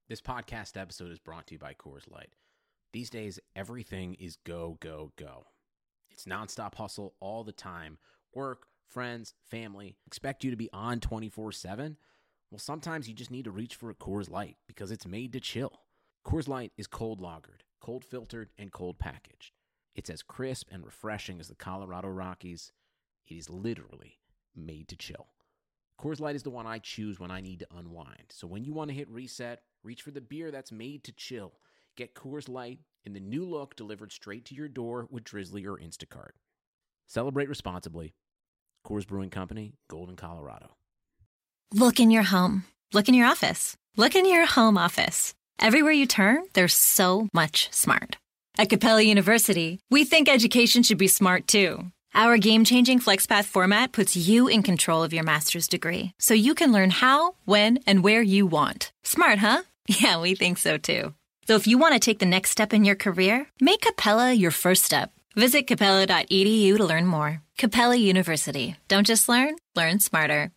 This podcast episode is brought to you by Coors Light. These days, everything is go, go, go. It's nonstop hustle all the time. Work, friends, family, expect you to be on 24/7. Well, sometimes you just need to reach for a Coors Light because it's made to chill. Coors Light is cold lagered, cold filtered, and cold packaged. It's as crisp and refreshing as the Colorado Rockies. It is literally made to chill. Coors Light is the one I choose when I need to unwind. So when you want to hit reset, reach for the beer that's made to chill. Get Coors Light in the new look delivered straight to your door with Drizzly or Instacart. Celebrate responsibly. Coors Brewing Company, Golden, Colorado. Look in your home. Look in your office. Look in your home office. Everywhere you turn, there's so much smart. At Capella University, we think education should be smart too. Our game-changing FlexPath format puts you in control of your master's degree, so you can learn how, when, and where you want. Smart, huh? Yeah, we think so too. So if you want to take the next step in your career, make Capella your first step. Visit capella.edu to learn more. Capella University. Don't just learn, learn smarter.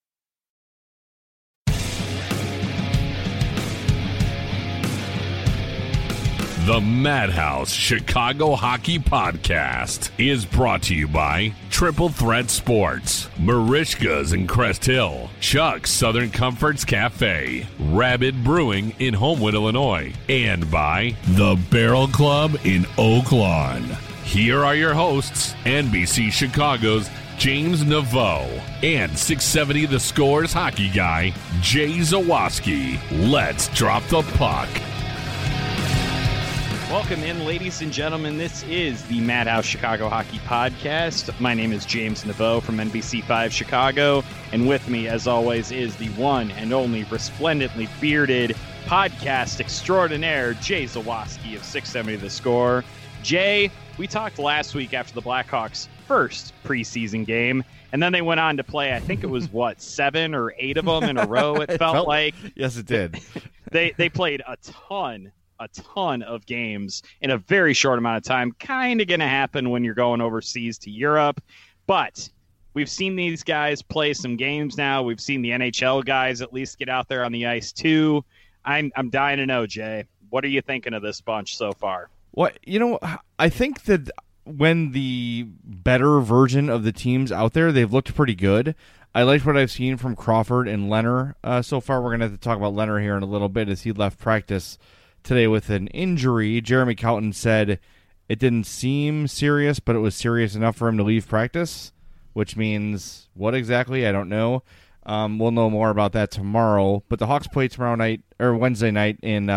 The Madhouse Chicago Hockey Podcast is brought to you by Triple Threat Sports, Marishka's in Crest Hill, Chuck's Southern Comforts Cafe, Rabid Brewing in Homewood, Illinois, and by The Barrel Club in Oak Lawn. Here are your hosts, NBC Chicago's James Naveau and 670 The Score's hockey guy, Jay Zawaski. Let's drop the puck. Welcome in, ladies and gentlemen. This is the Madhouse Chicago Hockey Podcast. My name is James Naveau from NBC5 Chicago, and with me, as always, is the one and only resplendently bearded podcast extraordinaire, Jay Zawaski of 670 The Score. Jay, we talked last week after the Blackhawks' first preseason game, and then they went on to play, I think it was, 7 or 8 of them in a row, it felt like. Yes, it did. They played a ton of games in a very short amount of time. Kind of going to happen when you're going overseas to Europe. But we've seen these guys play some games now. We've seen the NHL guys at least get out there on the ice too. I'm dying to know, Jay. What are you thinking of this bunch so far? Well, I think that when the better version of the teams out there, they've looked pretty good. I liked what I've seen from Crawford and Leonard so far. We're going to have to talk about Leonard here in a little bit as he left practice today with an injury. Jeremy Colton said it didn't seem serious, but it was serious enough for him to leave practice, which means what exactly? I don't know. We'll know more about that tomorrow. But the Hawks play Wednesday night in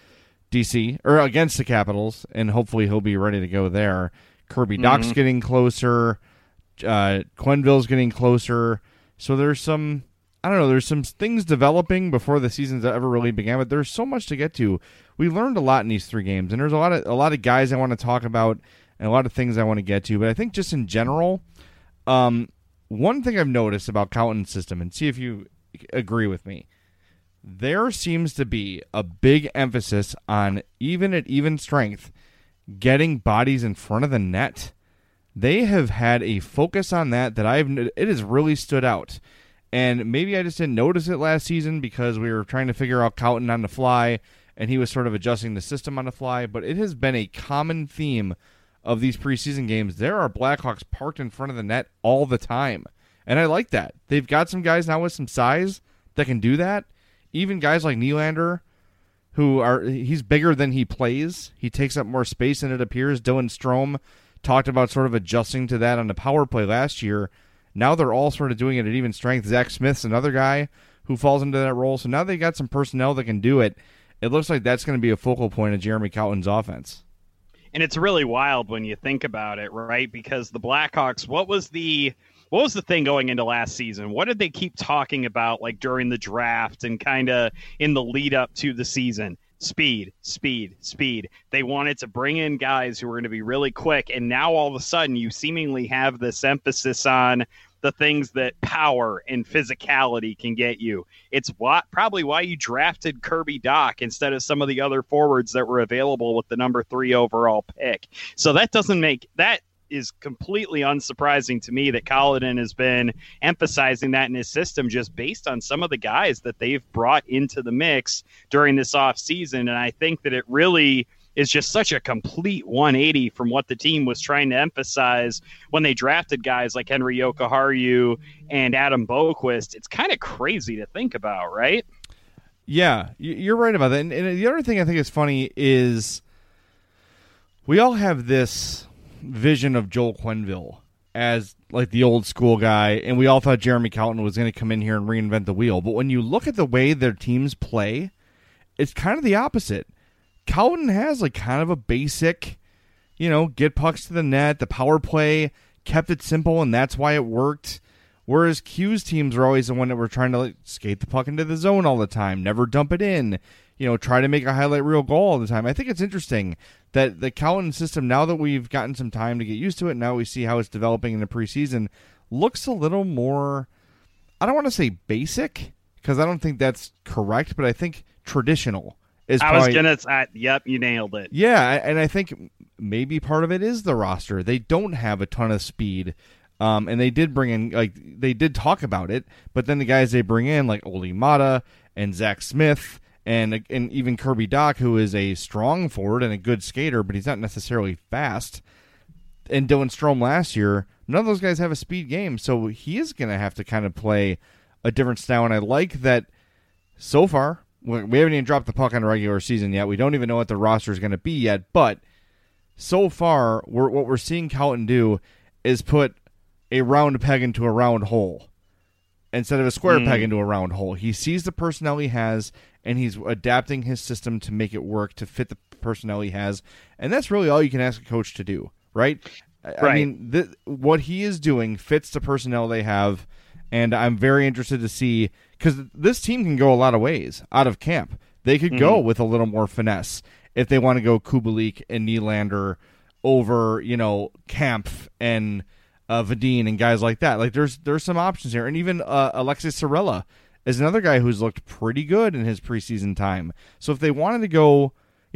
DC or against the Capitals, and hopefully he'll be ready to go there. Kirby Dach's getting closer. Quenneville's getting closer. So there's some things developing before the season's ever really began, but there's so much to get to. We learned a lot in these 3 games, and there's a lot of guys I want to talk about and a lot of things I want to get to. But I think just in general, one thing I've noticed about Colton's system, and see if you agree with me, there seems to be a big emphasis on, even at even strength, getting bodies in front of the net. They have had a focus on that it has really stood out. And maybe I just didn't notice it last season because we were trying to figure out Colton on the fly, and he was sort of adjusting the system on the fly. But it has been a common theme of these preseason games. There are Blackhawks parked in front of the net all the time, and I like that. They've got some guys now with some size that can do that. Even guys like Nylander, he's bigger than he plays. He takes up more space than it appears. Dylan Strome talked about sort of adjusting to that on the power play last year. Now they're all sort of doing it at even strength. Zach Smith's another guy who falls into that role. So now they got some personnel that can do it. It looks like that's going to be a focal point of Jeremy Colton's offense. And it's really wild when you think about it, right? Because the Blackhawks, what was the thing going into last season? What did they keep talking about, like during the draft and kind of in the lead up to the season? Speed. They wanted to bring in guys who were going to be really quick, and now all of a sudden you seemingly have this emphasis on the things that power and physicality can get you. It's probably why you drafted Kirby Dach instead of some of the other forwards that were available with the number 3 overall pick. So that doesn't make that is completely unsurprising to me that Colliton has been emphasizing that in his system just based on some of the guys that they've brought into the mix during this offseason. And I think that it really is just such a complete 180 from what the team was trying to emphasize when they drafted guys like Henry Jokiharju and Adam Boquist. It's kind of crazy to think about, right? Yeah, you're right about that. And the other thing I think is funny is we all have this vision of Joel Quenneville as like the old school guy, and we all thought Jeremy Colliton was going to come in here and reinvent the wheel. But when you look at the way their teams play, it's kind of the opposite. Colliton has like kind of a basic, get pucks to the net, the power play, kept it simple, and that's why it worked. Whereas Q's teams are always the one that were trying to skate the puck into the zone all the time, never dump it in, try to make a highlight reel goal all the time. I think it's interesting that the Colliton system, now that we've gotten some time to get used to it, now we see how it's developing in the preseason, looks a little more, I don't want to say basic, because I don't think that's correct, but I think traditional. Yep, you nailed it. Yeah, and I think maybe part of it is the roster. They don't have a ton of speed, and they did bring in, they did talk about it, but then the guys they bring in, like Oli Mata and Zach Smith, and even Kirby Doc, who is a strong forward and a good skater, but he's not necessarily fast, and Dylan Strome last year, none of those guys have a speed game, so he is going to have to kind of play a different style, and I like that so far. We haven't even dropped the puck on the regular season yet. We don't even know what the roster is going to be yet. But so far, what we're seeing Colliton do is put a round peg into a round hole instead of a square peg into a round hole. He sees the personnel he has, and he's adapting his system to make it work, to fit the personnel he has. And that's really all you can ask a coach to do, right? I mean, what he is doing fits the personnel they have, and I'm very interested to see, because this team can go a lot of ways out of camp. They could go with a little more finesse if they want to go Kubalik and Nylander over, Kampf and Vadine and guys like that. Like there's some options here, and even Alexis Sorella is another guy who's looked pretty good in his preseason time. So if they wanted to go,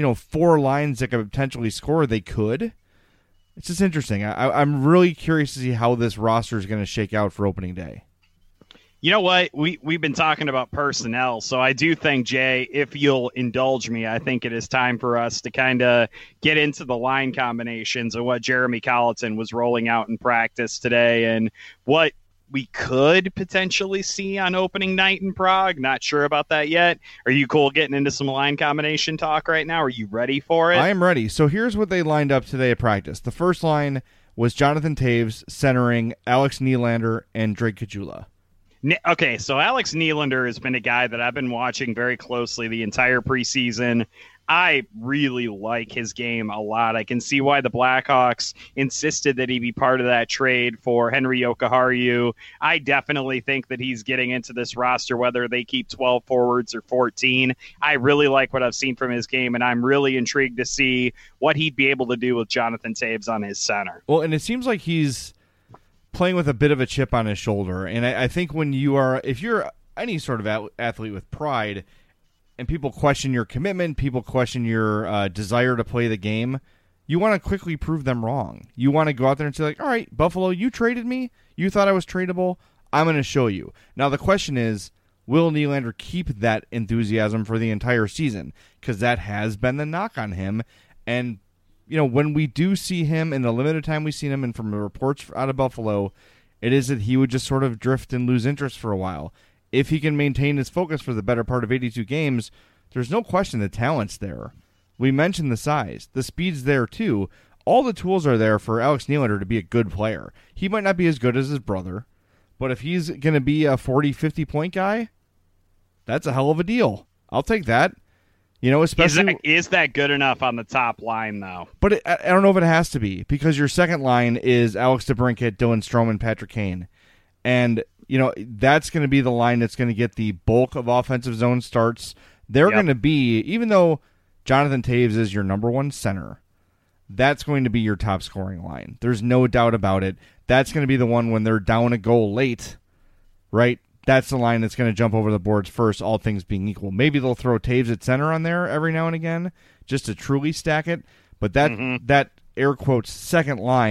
4 lines that could potentially score, they could. It's just interesting. I'm really curious to see how this roster is going to shake out for opening day. You know what? We've been talking about personnel, so I do think, Jay, if you'll indulge me, I think it is time for us to kind of get into the line combinations of what Jeremy Colliton was rolling out in practice today and what we could potentially see on opening night in Prague. Not sure about that yet. Are you cool getting into some line combination talk right now? Are you ready for it? I am ready. So here's what they lined up today at practice. The first line was Jonathan Toews centering Alex Nylander and Drake Caggiula. Okay, so Alex Nylander has been a guy that I've been watching very closely the entire preseason. I really like his game a lot. I can see why the Blackhawks insisted that he be part of that trade for Henry Jokiharju. I definitely think that he's getting into this roster, whether they keep 12 forwards or 14. I really like what I've seen from his game, and I'm really intrigued to see what he'd be able to do with Jonathan Toews on his center. Well, and it seems like he's playing with a bit of a chip on his shoulder. And I think if you're any sort of athlete with pride and people question your commitment, people question your desire to play the game, you want to quickly prove them wrong. You want to go out there and say, like, all right, Buffalo, you traded me. You thought I was tradable. I'm going to show you. Now, the question is, will Nylander keep that enthusiasm for the entire season? Because that has been the knock on him. And when we do see him in the limited time we've seen him, and from the reports out of Buffalo, it is that he would just sort of drift and lose interest for a while. If he can maintain his focus for the better part of 82 games, there's no question the talent's there. We mentioned the size. The speed's there too. All the tools are there for Alex Nylander to be a good player. He might not be as good as his brother, but if he's going to be a 40, 50-point guy, that's a hell of a deal. I'll take that. Especially is that good enough on the top line, though? But I don't know if it has to be, because your second line is Alex DeBrincat, Dylan Strome, and Patrick Kane. And, that's going to be the line that's going to get the bulk of offensive zone starts. They're going to be, even though Jonathan Toews is your number one center, that's going to be your top scoring line. There's no doubt about it. That's going to be the one when they're down a goal late, right? That's the line that's going to jump over the boards first, all things being equal. Maybe they'll throw Toews at center on there every now and again just to truly stack it. But that air quotes second line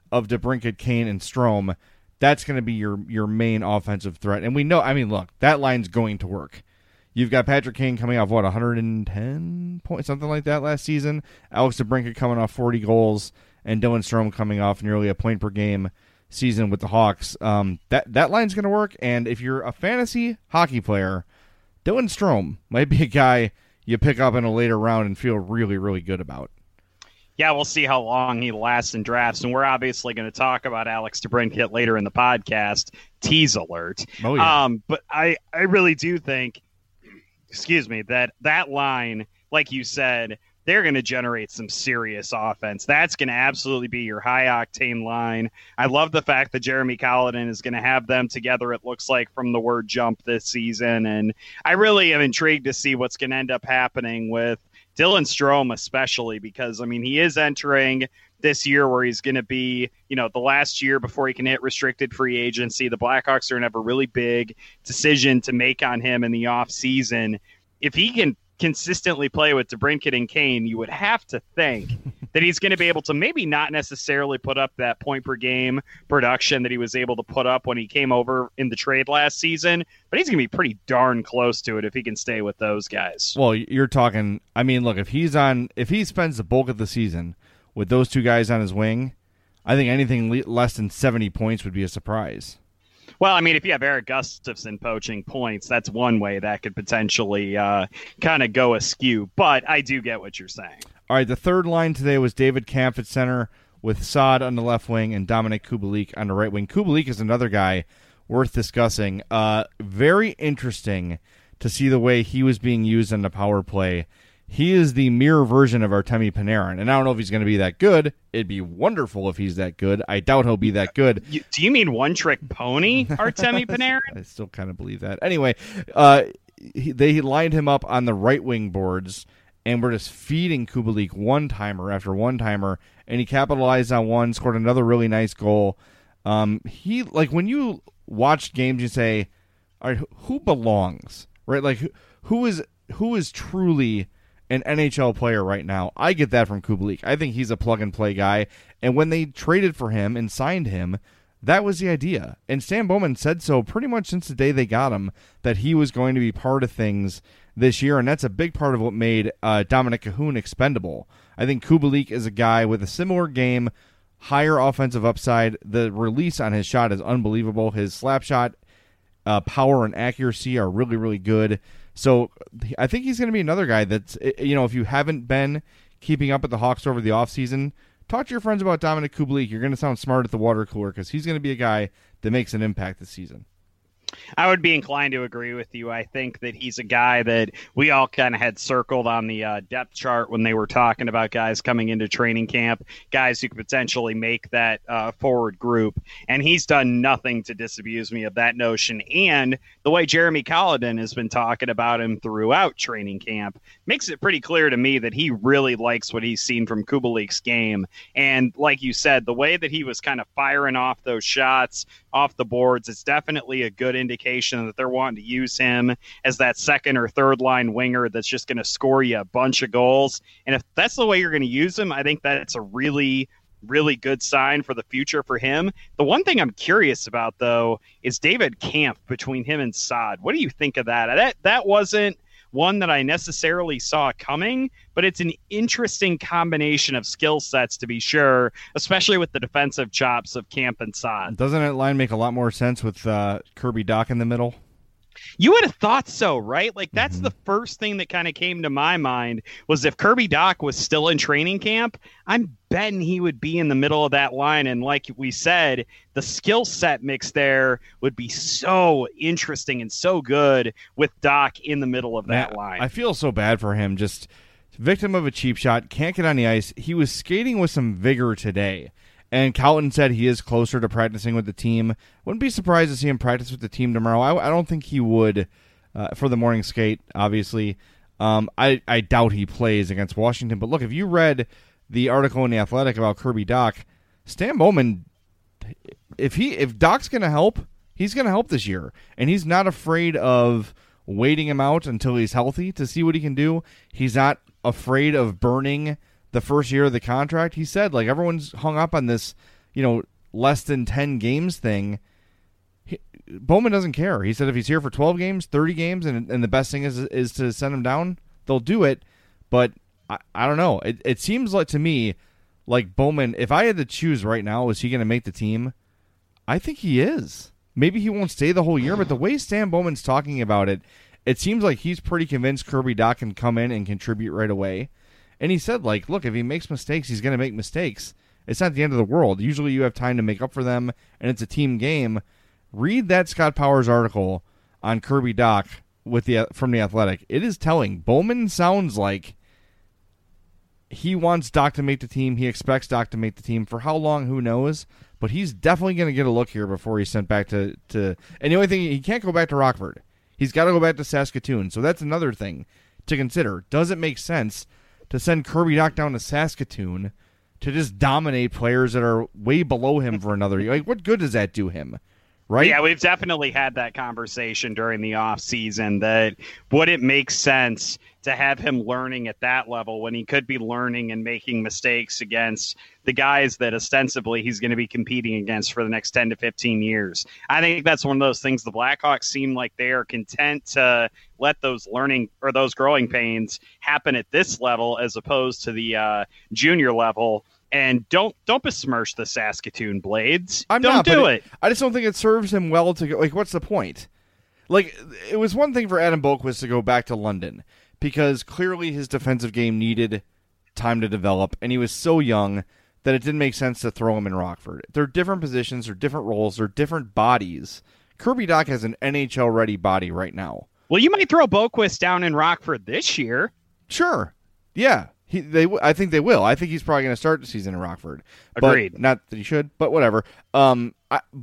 of DeBrincat, Kane, and Strome, that's going to be your main offensive threat. And we know, I mean, look, that line's going to work. You've got Patrick Kane coming off, 110 points, something like that last season. Alex DeBrincat coming off 40 goals, and Dylan Strome coming off nearly a point per game season with the Hawks. That line's going to work, and if you're a fantasy hockey player, Dylan Strome might be a guy you pick up in a later round and feel really, really good about. Yeah, we'll see how long he lasts in drafts, and we're obviously going to talk about Alex DeBrincat later in the podcast. Tease alert. Oh, yeah. But I really do think, that line, like you said, they're going to generate some serious offense. That's going to absolutely be your high-octane line. I love the fact that Jeremy Colliton is going to have them together, it looks like, from the word jump this season. And I really am intrigued to see what's going to end up happening with Dylan Strome, especially because, I mean, he is entering this year where he's going to be, the last year before he can hit restricted free agency. The Blackhawks are going to have a really big decision to make on him in the offseason. If he can consistently play with DeBrincat and Kane, you would have to think that he's going to be able to maybe not necessarily put up that point per game production that he was able to put up when he came over in the trade last season, but he's going to be pretty darn close to it if he can stay with those guys. Well, you're talking, I mean, look, if he spends the bulk of the season with those two guys on his wing, I think anything less than 70 points would be a surprise. Well, I mean, if you have Eric Gustafson poaching points, that's one way that could potentially kind of go askew. But I do get what you're saying. All right, the third line today was David Kampf at center with Saad on the left wing and Dominic Kubalik on the right wing. Kubalik is another guy worth discussing. Very interesting to see the way he was being used on the power play. He is the mirror version of Artemi Panarin, and I don't know if he's going to be that good. It'd be wonderful if he's that good. I doubt he'll be that good. Do you mean one-trick pony, Artemi Panarin? I still kind of believe that. Anyway, they lined him up on the right wing boards, and we're just feeding Kubalik one-timer after one-timer, and he capitalized on one, scored another really nice goal. He, like, when you watch games, you say, all right, who belongs, right? Like, who is truly an NHL player right now? I get that from Kubalik. I think he's a plug-and-play guy, and when they traded for him and signed him, that was the idea. And Stan Bowman said so pretty much since the day they got him, that he was going to be part of things this year, and that's a big part of what made Dominic Cahoon expendable. I think Kubalik is a guy with a similar game, higher offensive upside. The release on his shot is unbelievable. His slap shot power and accuracy are really, really good. So I think he's going to be another guy that's, if you haven't been keeping up with the Hawks over the offseason, talk to your friends about Dominic Kubalik. You're going to sound smart at the water cooler because he's going to be a guy that makes an impact this season. I would be inclined to agree with you. I think that he's a guy that we all kind of had circled on the depth chart when they were talking about guys coming into training camp, guys who could potentially make that forward group. And he's done nothing to disabuse me of that notion. And the way Jeremy Colliton has been talking about him throughout training camp makes it pretty clear to me that he really likes what he's seen from Kubalik's game. And like you said, the way that he was kind of firing off those shots off the boards, it's definitely a good indication that they're wanting to use him as that second or third line winger that's just going to score you a bunch of goals. And if that's the way you're going to use him, I think that's a really, really good sign for the future for him. The one thing I'm curious about, though, is David Kampf between him and Saad. What do you think of that? That wasn't one that I necessarily saw coming, but it's an interesting combination of skill sets, to be sure, especially with the defensive chops of Kampf and Saad. Doesn't that line make a lot more sense with Kirby Dach in the middle? You would have thought so, right? Like, that's the first thing that kind of came to my mind was if Kirby Dach was still in training camp, I'm betting he would be in the middle of that line. And like we said, the skill set mix there would be so interesting and so good with Dach in the middle of that line. I feel so bad for him. Just victim of a cheap shot, can't get on the ice. He was skating with some vigor today. And Colliton said he is closer to practicing with the team. Wouldn't be surprised to see him practice with the team tomorrow. I don't think he would for the morning skate, obviously. I doubt he plays against Washington. But look, if you read the article in The Athletic about Kirby Dach, Stan Bowman, if Dach's going to help, he's going to help this year. And he's not afraid of waiting him out until he's healthy to see what he can do. He's not afraid of burning the first year of the contract. He said, like, everyone's hung up on this less than 10 games thing, Bowman doesn't care. He said if he's here for 12 games, 30 games, and the best thing is to send him down, they'll do it. But I don't know. It seems like to me like Bowman, if I had to choose right now, is he going to make the team? I think he is. Maybe he won't stay the whole year, but the way Stan Bowman's talking about it, it seems like he's pretty convinced Kirby Dach can come in and contribute right away. And he said, like, look, if he makes mistakes, he's going to make mistakes. It's not the end of the world. Usually you have time to make up for them, and it's a team game. Read that Scott Powers article on Kirby Dach from The Athletic. It is telling. Bowman sounds like he wants Dach to make the team. He expects Dach to make the team. For how long, who knows? But he's definitely going to get a look here before he's sent back to... And the only thing, he can't go back to Rockford. He's got to go back to Saskatoon. So that's another thing to consider. Does it make sense to send Kirby Dach down to Saskatoon to just dominate players that are way below him for another year? Like, what good does that do him? Right? Yeah, we've definitely had that conversation during the off season that would it make sense to have him learning at that level when he could be learning and making mistakes against the guys that ostensibly he's going to be competing against for the next 10 to 15 years. I think that's one of those things the Blackhawks seem like they are content to let those learning or those growing pains happen at this level as opposed to the junior level. And don't besmirch the Saskatoon Blades. Don't do it. I just don't think it serves him well to go. Like, what's the point? Like, it was one thing for Adam Boqvist to go back to London because clearly his defensive game needed time to develop, and he was so young that it didn't make sense to throw him in Rockford. They're different positions, they're different roles, they're different bodies. Kirby Dach has an NHL-ready body right now. Well, you might throw Boqvist down in Rockford this year. Sure. Yeah. I think they will. I think he's probably going to start the season in Rockford. Agreed. Not that he should, but whatever. Sending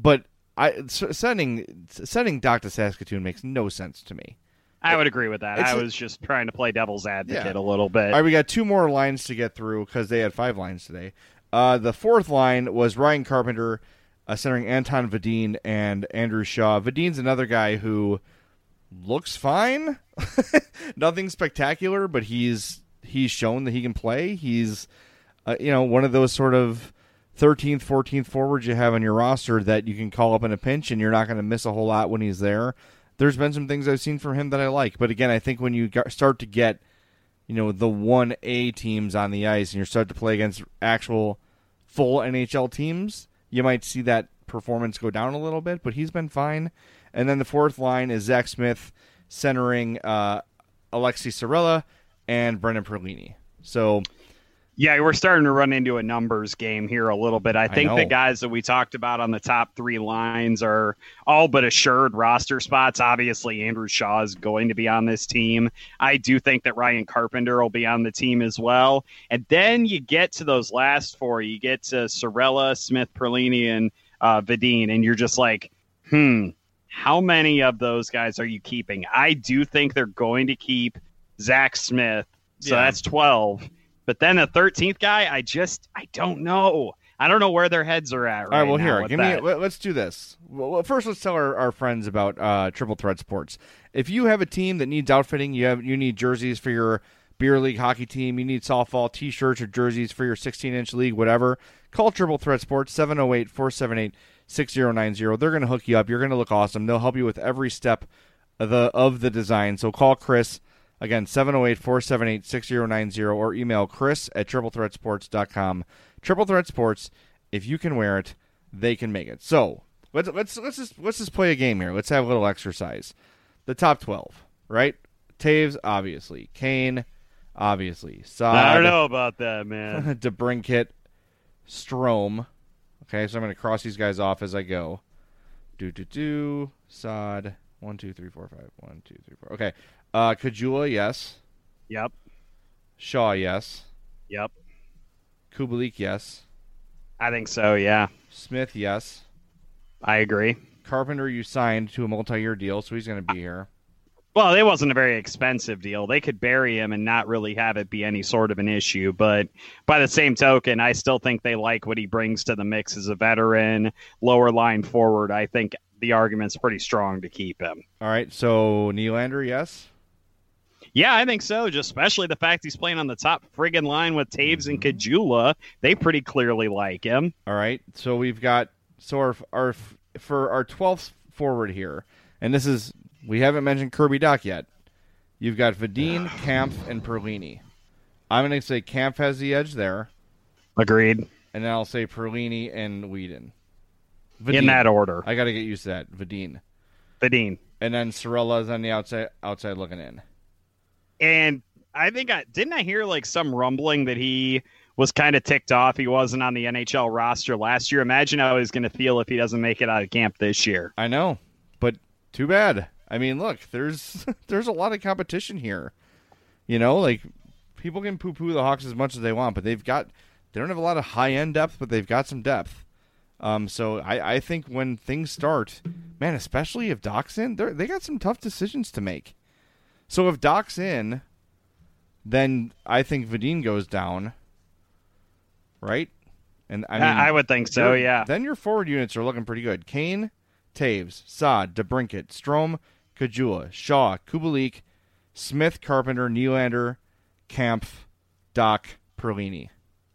Dach to Saskatoon makes no sense to me. I would agree with that. I was just trying to play devil's advocate a little bit. All right, we got 2 more lines to get through because they had 5 lines today. The 4th line was Ryan Carpenter centering Anton Vadin and Andrew Shaw. Vadin's another guy who looks fine. Nothing spectacular, but he's shown that he can play. He's, one of those sort of 13th, 14th forwards you have on your roster that you can call up in a pinch, and you're not going to miss a whole lot when he's there. There's been some things I've seen from him that I like. But again, I think when you start to get, the 1A teams on the ice and you start to play against actual full NHL teams, you might see that performance go down a little bit, but he's been fine. And then the 4th line is Zach Smith centering Alexi Sorella and Brendan Perlini. So, yeah, we're starting to run into a numbers game here a little bit. I think the guys that we talked about on the top 3 lines are all but assured roster spots. Obviously, Andrew Shaw is going to be on this team. I do think that Ryan Carpenter will be on the team as well. And then you get to those last 4. You get to Sorella, Smith, Perlini, and Vadin, and you're just like, how many of those guys are you keeping? I do think they're going to keep Zach Smith, so that's 12. But then the 13th guy, I don't know. I don't know where their heads are at right now. All right, well, here, let's do this. Well, first, let's tell our friends about Triple Threat Sports. If you have a team that needs outfitting, you need jerseys for your beer league hockey team, you need softball T-shirts or jerseys for your 16-inch league, whatever, call Triple Threat Sports, 708-478-6090. They're going to hook you up. You're going to look awesome. They'll help you with every step of the design. So call Chris. Again, 708-478-6090 or email chris@triplethreatsports.com. Triple Threat Sports, if you can wear it, they can make it. So let's just play a game here. Let's have a little exercise. The top 12, right? Taves, obviously. Kane, obviously. Saad, I don't know about that, man. DeBrincat, Strome. Okay, so I'm going to cross these guys off as I go. Saad. 1, 2, 3, 4, 5. 1, 2, 3, 4. Okay. Kajula, yes. Yep. Shaw, yes. Yep. Kubalik, yes. I think so, yeah. Smith, yes. I agree. Carpenter, you signed to a multi-year deal, so he's going to be here. Well, it wasn't a very expensive deal. They could bury him and not really have it be any sort of an issue. But by the same token, I still think they like what he brings to the mix as a veteran, lower line forward. I think the argument's pretty strong to keep him. All right, so Nylander, yes? Yeah, I think so. Just especially the fact he's playing on the top friggin' line with Taves and Kajula. They pretty clearly like him. All right. So we've got for our 12th forward here, and this is we haven't mentioned Kirby Dach yet. You've got Vadine, Kampf, and Perlini. I'm going to say Kampf has the edge there. Agreed. And then I'll say Perlini and Whedon. Vadine. In that order. I got to get used to that. Vadine. And then Cirella is on the outside looking in. And I think didn't I hear like some rumbling that he was kind of ticked off he wasn't on the NHL roster last year. Imagine how he's going to feel if he doesn't make it out of camp this year. I know, but too bad. I mean, look, there's a lot of competition here. You know, like people can poo-poo the Hawks as much as they want, but they don't have a lot of high-end depth, but they've got some depth. So I think when things start, man, especially if Dach's in, they got some tough decisions to make. So if Dach's in, then I think Vadine goes down, right? And I mean, I would think so, yeah. Then your forward units are looking pretty good. Kane, Taves, Saad, DeBrincat, Strome, Kajula, Shaw, Kubalik, Smith, Carpenter, Nylander, Kampf, Dach, Perlini.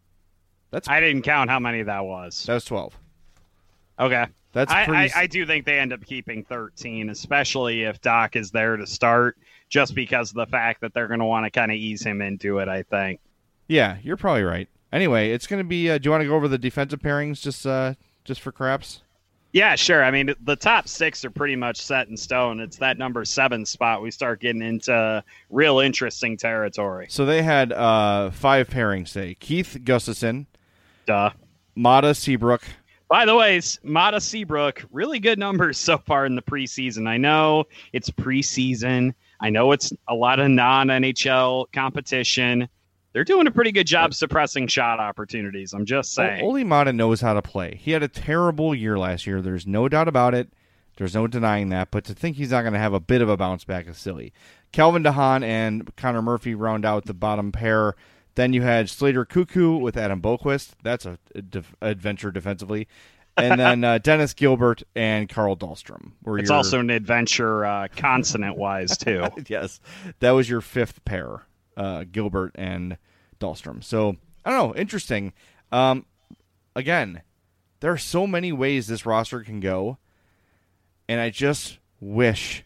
I didn't count how many that was. That was 12. Okay. That's I do think they end up keeping 13, especially if Dach is there to start, just because of the fact that they're going to want to kind of ease him into it, I think. Yeah, you're probably right. Anyway, it's going to be, do you want to go over the defensive pairings just for craps? Yeah, sure. I mean, the top 6 are pretty much set in stone. It's that number 7 spot we start getting into real interesting territory. So they had 5 pairings, say. Keith Gustafsson. Duh. Mata Seabrook. By the way, Mata Seabrook, really good numbers so far in the preseason. I know it's preseason. I know it's a lot of non-NHL competition. They're doing a pretty good job suppressing shot opportunities. I'm just saying. Ole Mata knows how to play. He had a terrible year last year. There's no doubt about it. There's no denying that. But to think he's not going to have a bit of a bounce back is silly. Calvin DeHaan and Connor Murphy round out the bottom pair. Then you had Slater Cuckoo with Adam Boquist. That's an adventure defensively. And then Dennis Gilbert and Carl Dahlstrom. It's also an adventure consonant-wise, too. Yes. That was your 5th pair, Gilbert and Dahlstrom. So, I don't know. Interesting. Again, there are so many ways this roster can go. And I just wish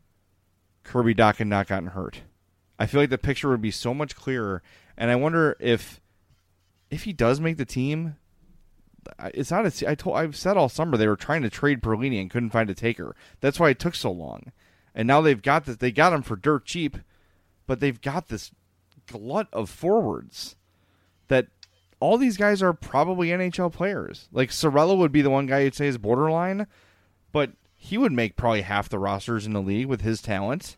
Kirby Dach had not gotten hurt. I feel like the picture would be so much clearer. And I wonder if he does make the team, it's not I've said all summer they were trying to trade Perlini and couldn't find a taker. That's why it took so long. And now they've got this. They got him for dirt cheap, but they've got this glut of forwards that all these guys are probably NHL players. Like Cirella would be the one guy you'd say is borderline, but he would make probably half the rosters in the league with his talent.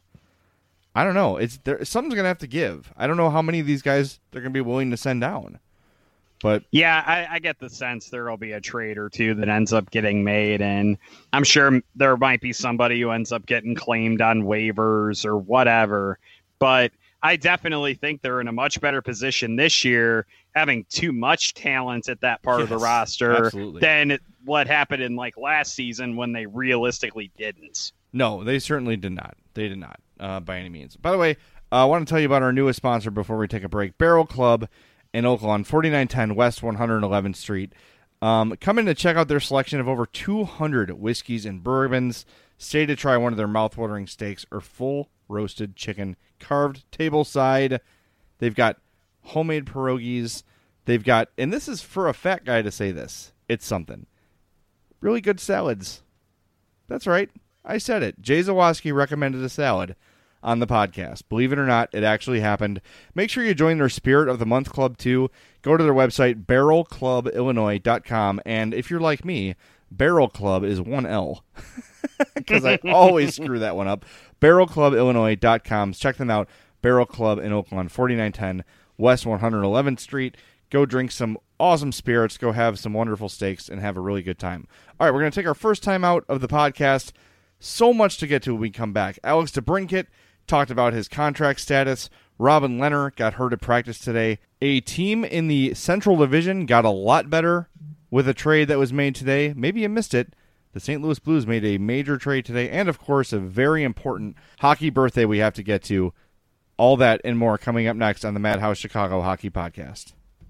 I don't know. Something's going to have to give. I don't know how many of these guys they're going to be willing to send down. But yeah, I get the sense there will be a trade or two that ends up getting made, and I'm sure there might be somebody who ends up getting claimed on waivers or whatever. But I definitely think they're in a much better position this year, having too much talent at that part of the roster than what happened in like last season when they realistically didn't. No, they certainly did not. They did not by any means. By the way, I want to tell you about our newest sponsor before we take a break, Barrel Club in Oakland, 4910 West 111th Street. Come in to check out their selection of over 200 whiskeys and bourbons. Stay to try one of their mouthwatering steaks or full roasted chicken carved tableside. They've got homemade pierogies. They've got, and this is for a fat guy to say this, it's something, really good salads. That's right. I said it. Jay Zawoski recommended a salad on the podcast. Believe it or not, it actually happened. Make sure you join their Spirit of the Month Club, too. Go to their website, barrelclubillinois.com. And if you're like me, Barrel Club is one L. Because I always screw that one up. barrelclubillinois.com. Check them out. Barrel Club in Oakland, 4910 West 111th Street. Go drink some awesome spirits. Go have some wonderful steaks and have a really good time. All right, we're going to take our first time out of the podcast. So much to get to when we come back. Alex DeBrincat talked about his contract status. Robin Lehner got hurt at practice today. A team in the Central Division got a lot better with a trade that was made today. Maybe you missed it. The St. Louis Blues made a major trade today. And, of course, a very important hockey birthday we have to get to. All that and more coming up next on the Madhouse Chicago Hockey Podcast.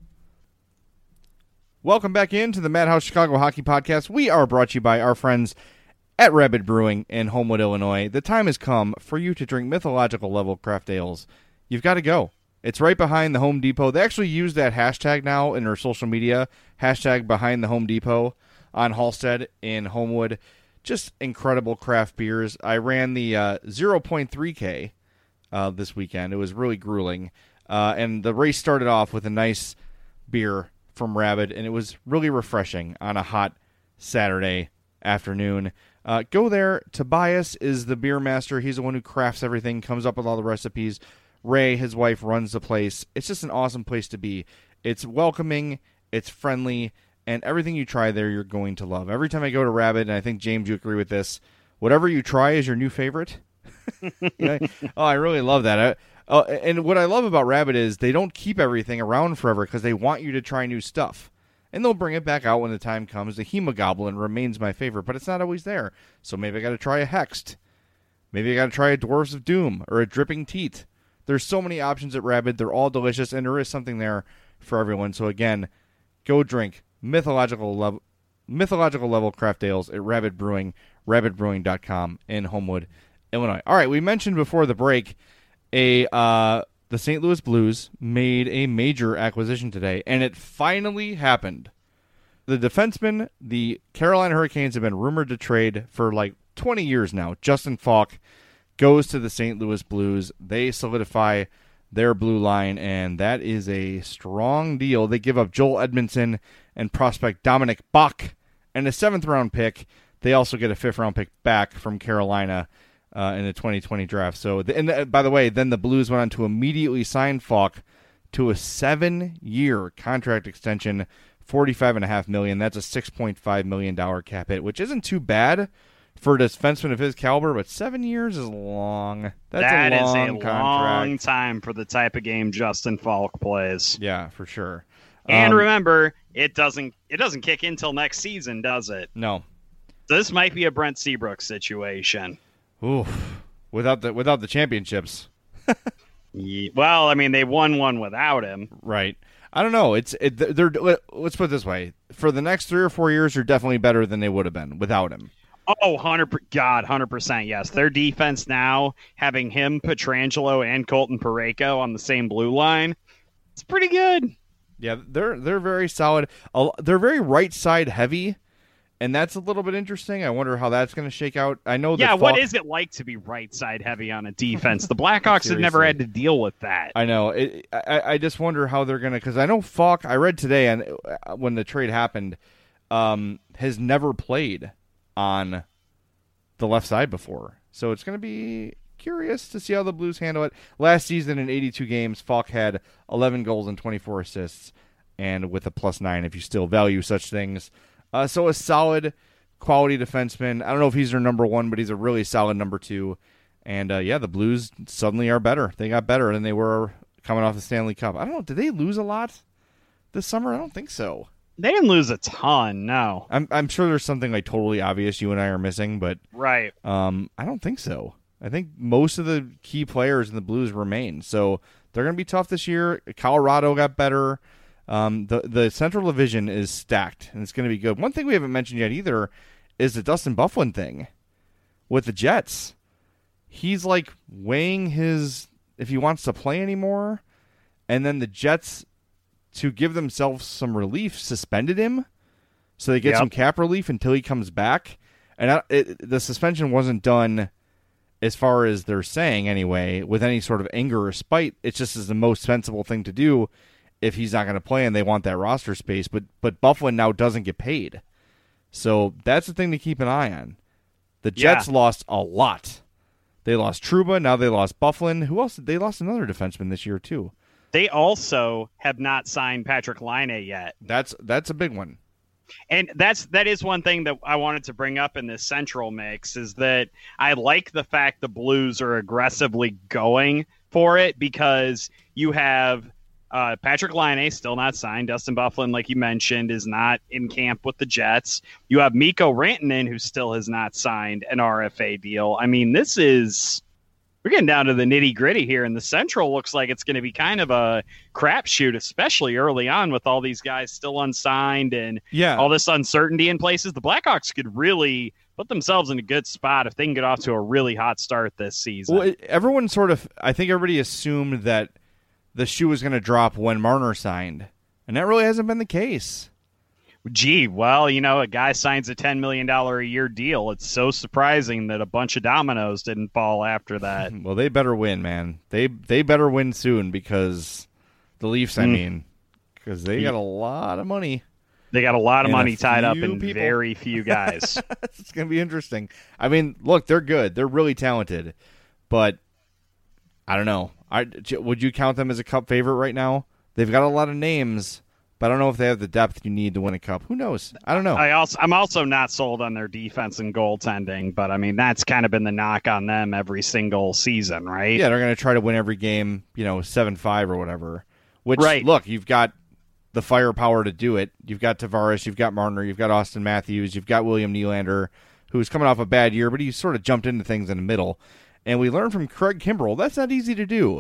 Welcome back into the Madhouse Chicago Hockey Podcast. We are brought to you by our friends at Rabid Brewing in Homewood, Illinois. The time has come for you to drink mythological level craft ales. You've got to go. It's right behind the Home Depot. They actually use that hashtag now in their social media, hashtag behind the Home Depot on Halstead in Homewood. Just incredible craft beers. I ran the 0.3K this weekend. It was really grueling. And the race started off with a nice beer from Rabid, and it was really refreshing on a hot Saturday afternoon. Go there. Tobias is the beer master. He's the one who crafts everything, comes up with all the recipes. Ray, his wife, runs the place. It's just an awesome place to be. It's welcoming, it's friendly, and everything you try there, you're going to love. Every time I go to Rabid, and I think, James, you agree with this, whatever you try is your new favorite. I really love that. And what I love about Rabid is they don't keep everything around forever because they want you to try new stuff. And they'll bring it back out when the time comes. The Hemogoblin remains my favorite, but it's not always there. So maybe I got to try a Hexed. Maybe I got to try a Dwarves of Doom or a Dripping Teat. There's so many options at Rabid. They're all delicious, and there is something there for everyone. So again, go drink mythological level craft ales at Rabid Brewing, rabidbrewing.com in Homewood, Illinois. All right, we mentioned before the break the St. Louis Blues made a major acquisition today, and it finally happened. The defenseman the Carolina Hurricanes have been rumored to trade for like 20 years now. Justin Falk goes to the St. Louis Blues. They solidify their blue line, and that is a strong deal. They give up Joel Edmondson and prospect Dominic Bach and a 7th-round pick. They also get a 5th-round pick back from Carolina in the 2020 draft. So, by the way, then the Blues went on to immediately sign Falk to a 7-year contract extension, $45.5 million. That's a $6.5 million cap hit, which isn't too bad for a defenseman of his caliber, but 7 years is long. That is a long time for the type of game Justin Falk plays. Yeah, for sure. And remember, it doesn't kick in till next season, does it? No. So this might be a Brent Seabrook situation. Oof. Without the championships. Well, I mean, they won one without him. Right. I don't know. Let's put it this way. For the next 3 or 4 years, they're definitely better than they would have been without him. Oh, 100%, yes. Their defense now, having him, Pietrangelo, and Colton Parayko on the same blue line, it's pretty good. Yeah, they're very solid. They're very right side heavy, and that's a little bit interesting. I wonder how that's going to shake out. I know. Yeah, what is it like to be right side heavy on a defense? The Blackhawks have never had to deal with that. I know. I just wonder how they're going to, because I know Falk, I read today, and when the trade happened, has never played on the left side before. So it's going to be curious to see how the Blues handle it. Last season in 82 games, Falk had 11 goals and 24 assists, and with a +9 if you still value such things. So a solid quality defenseman. I don't know if he's their number one, but he's a really solid number two. And the Blues suddenly are better. They got better than they were coming off the Stanley Cup. I don't know. Did they lose a lot this summer? I don't think so. They didn't lose a ton, no. I'm sure there's something like totally obvious you and I are missing, but right. I don't think so. I think most of the key players in the Blues remain, so they're going to be tough this year. Colorado got better. The Central Division is stacked, and it's going to be good. One thing we haven't mentioned yet either is the Dustin Byfuglien thing with the Jets. He's like weighing if he wants to play anymore, and then the Jets, to give themselves some relief, suspended him so they get some cap relief until he comes back. And the suspension wasn't done, as far as they're saying anyway, with any sort of anger or spite. It's just is the most sensible thing to do if he's not going to play and they want that roster space. But Byfuglien now doesn't get paid. So that's the thing to keep an eye on. The Jets lost a lot. They lost Trouba, now they lost Byfuglien. Who else? They lost another defenseman this year too. They also have not signed Patrik Laine yet. That's a big one. And that is one thing that I wanted to bring up in this Central mix, is that I like the fact the Blues are aggressively going for it, because you have Patrik Laine still not signed. Dustin Byfuglien, like you mentioned, is not in camp with the Jets. You have Mikko Rantanen, who still has not signed an RFA deal. I mean, this is we're getting down to the nitty gritty here, and the Central looks like it's going to be kind of a crapshoot, especially early on with all these guys still unsigned and all this uncertainty in places. The Blackhawks could really put themselves in a good spot if they can get off to a really hot start this season. Well, I think everybody assumed that the shoe was going to drop when Marner signed, and that really hasn't been the case. Gee, well, a guy signs a $10 million a year deal. It's so surprising that a bunch of dominoes didn't fall after that. Well, they better win, man. They better win soon because the Leafs, because they got a lot of money. They got a lot of money tied up in very few guys. It's going to be interesting. I mean, look, they're good. They're really talented. But I don't know. Would you count them as a cup favorite right now? They've got a lot of names, but I don't know if they have the depth you need to win a cup. Who knows? I don't know. I'm also not sold on their defense and goaltending, but I mean that's kind of been the knock on them every single season, right? Yeah, they're going to try to win every game, 7-5 or whatever. Which, right. Look, you've got the firepower to do it. You've got Tavares, you've got Marner, you've got Austin Matthews, you've got William Nylander, who's coming off a bad year, but he sort of jumped into things in the middle. And we learned from Craig Kimbrell, that's not easy to do.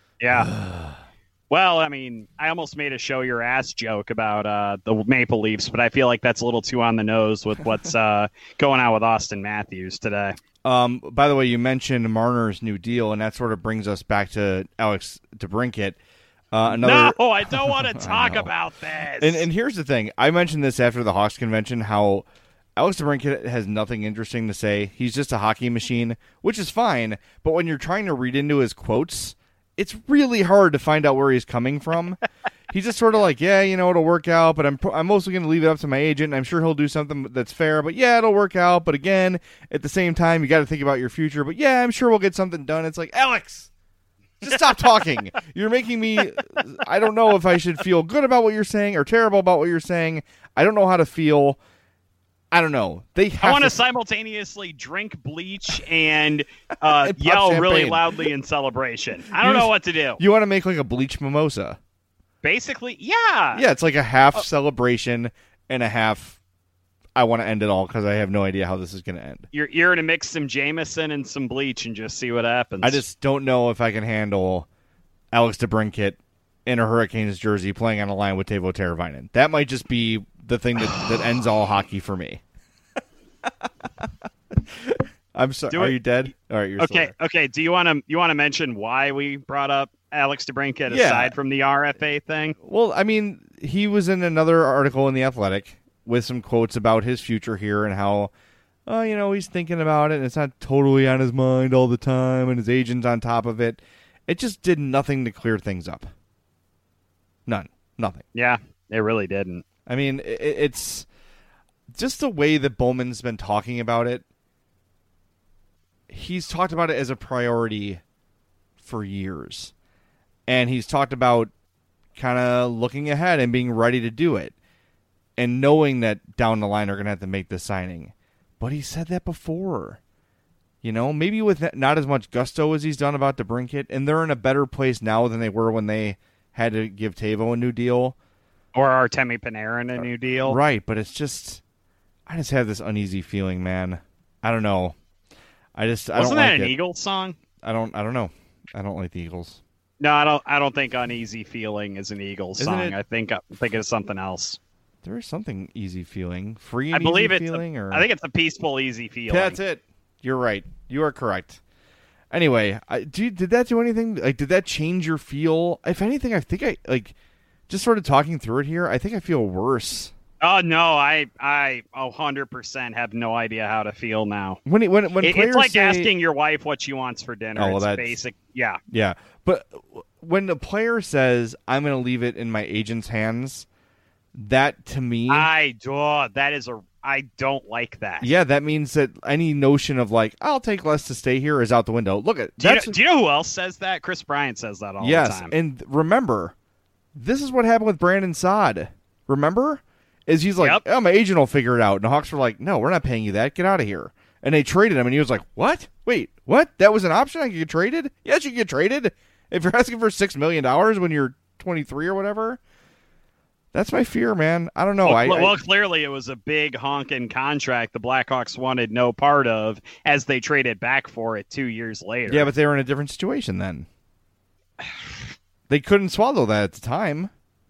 Yeah. Well, I mean, I almost made a show your ass joke about the Maple Leafs, but I feel like that's a little too on the nose with what's going on with Austin Matthews today. By the way, you mentioned Marner's new deal, and that sort of brings us back to Alex DeBrincat. No, I don't want to talk about this. And here's the thing. I mentioned this after the Hawks convention, how Alex DeBrincat has nothing interesting to say. He's just a hockey machine, which is fine. But when you're trying to read into his quotes, it's really hard to find out where he's coming from. He's just sort of like, yeah, it'll work out, but I'm mostly going to leave it up to my agent. I'm sure he'll do something that's fair, but yeah, it'll work out. But again, at the same time, you got to think about your future. But yeah, I'm sure we'll get something done. It's like, Alex, just stop talking. You're making me, I don't know if I should feel good about what you're saying or terrible about what you're saying. I don't know how to feel. I don't know. I want to simultaneously drink bleach and yell really loudly in celebration. I don't know what to do. You want to make like a bleach mimosa. Basically, yeah. Yeah, it's like a half celebration and a half I want to end it all because I have no idea how this is going to end. You're going to mix some Jameson and some bleach and just see what happens. I just don't know if I can handle Alex DeBrincat in a Hurricanes jersey playing on a line with Teuvo Teravainen. That might just be the thing that ends all hockey for me. I'm sorry. Are you dead? All right, you're okay. Okay. Do you want to mention why we brought up Alex DeBrincat aside from the RFA thing? Well, I mean, he was in another article in The Athletic with some quotes about his future here and how, he's thinking about it and it's not totally on his mind all the time and his agent's on top of it. It just did nothing to clear things up. Nothing. Yeah, it really didn't. I mean, it's just the way that Bowman's been talking about it. He's talked about it as a priority for years. And he's talked about kind of looking ahead and being ready to do it. And knowing that down the line they're going to have to make this signing. But he said that before. Maybe with not as much gusto as he's done about DeBrincat. And they're in a better place now than they were when they had to give Teuvo a new deal. Or Artemi Panarin a new deal. Right, but it's just... I just have this uneasy feeling, man. I don't know. Wasn't don't that like an it. Eagles song? I don't know. I don't like the Eagles. No, I don't think Uneasy Feeling is an Eagles song. I think it's something else. There is something easy feeling. Free and I believe easy feeling? I think it's a peaceful, easy feeling. That's it. You're right. You are correct. Anyway, did that do anything? Like, did that change your feel? If anything, I think just sort of talking through it here, I think I feel worse. Oh no, I 100% have no idea how to feel now. When players it's like say, asking your wife what she wants for dinner. Oh, well, it's basic. Yeah. Yeah. But when the player says, I'm going to leave it in my agent's hands, that to me, I don't like that. Yeah, that means that any notion of like, I'll take less to stay here is out the window. Look at do you know who else says that? Chris Bryant says that all the time. Yes, and remember, this is what happened with Brandon Saad. Remember? Is he's like, my agent will figure it out. And the Hawks were like, no, we're not paying you that. Get out of here. And they traded him, and he was like, what? Wait, what? That was an option? I could get traded? Yes, you can get traded. If you're asking for $6 million when you're 23 or whatever. That's my fear, man. I don't know. Well, clearly it was a big honking contract the Blackhawks wanted no part of as they traded back for it 2 years later. Yeah, but they were in a different situation then. They couldn't swallow that at the time.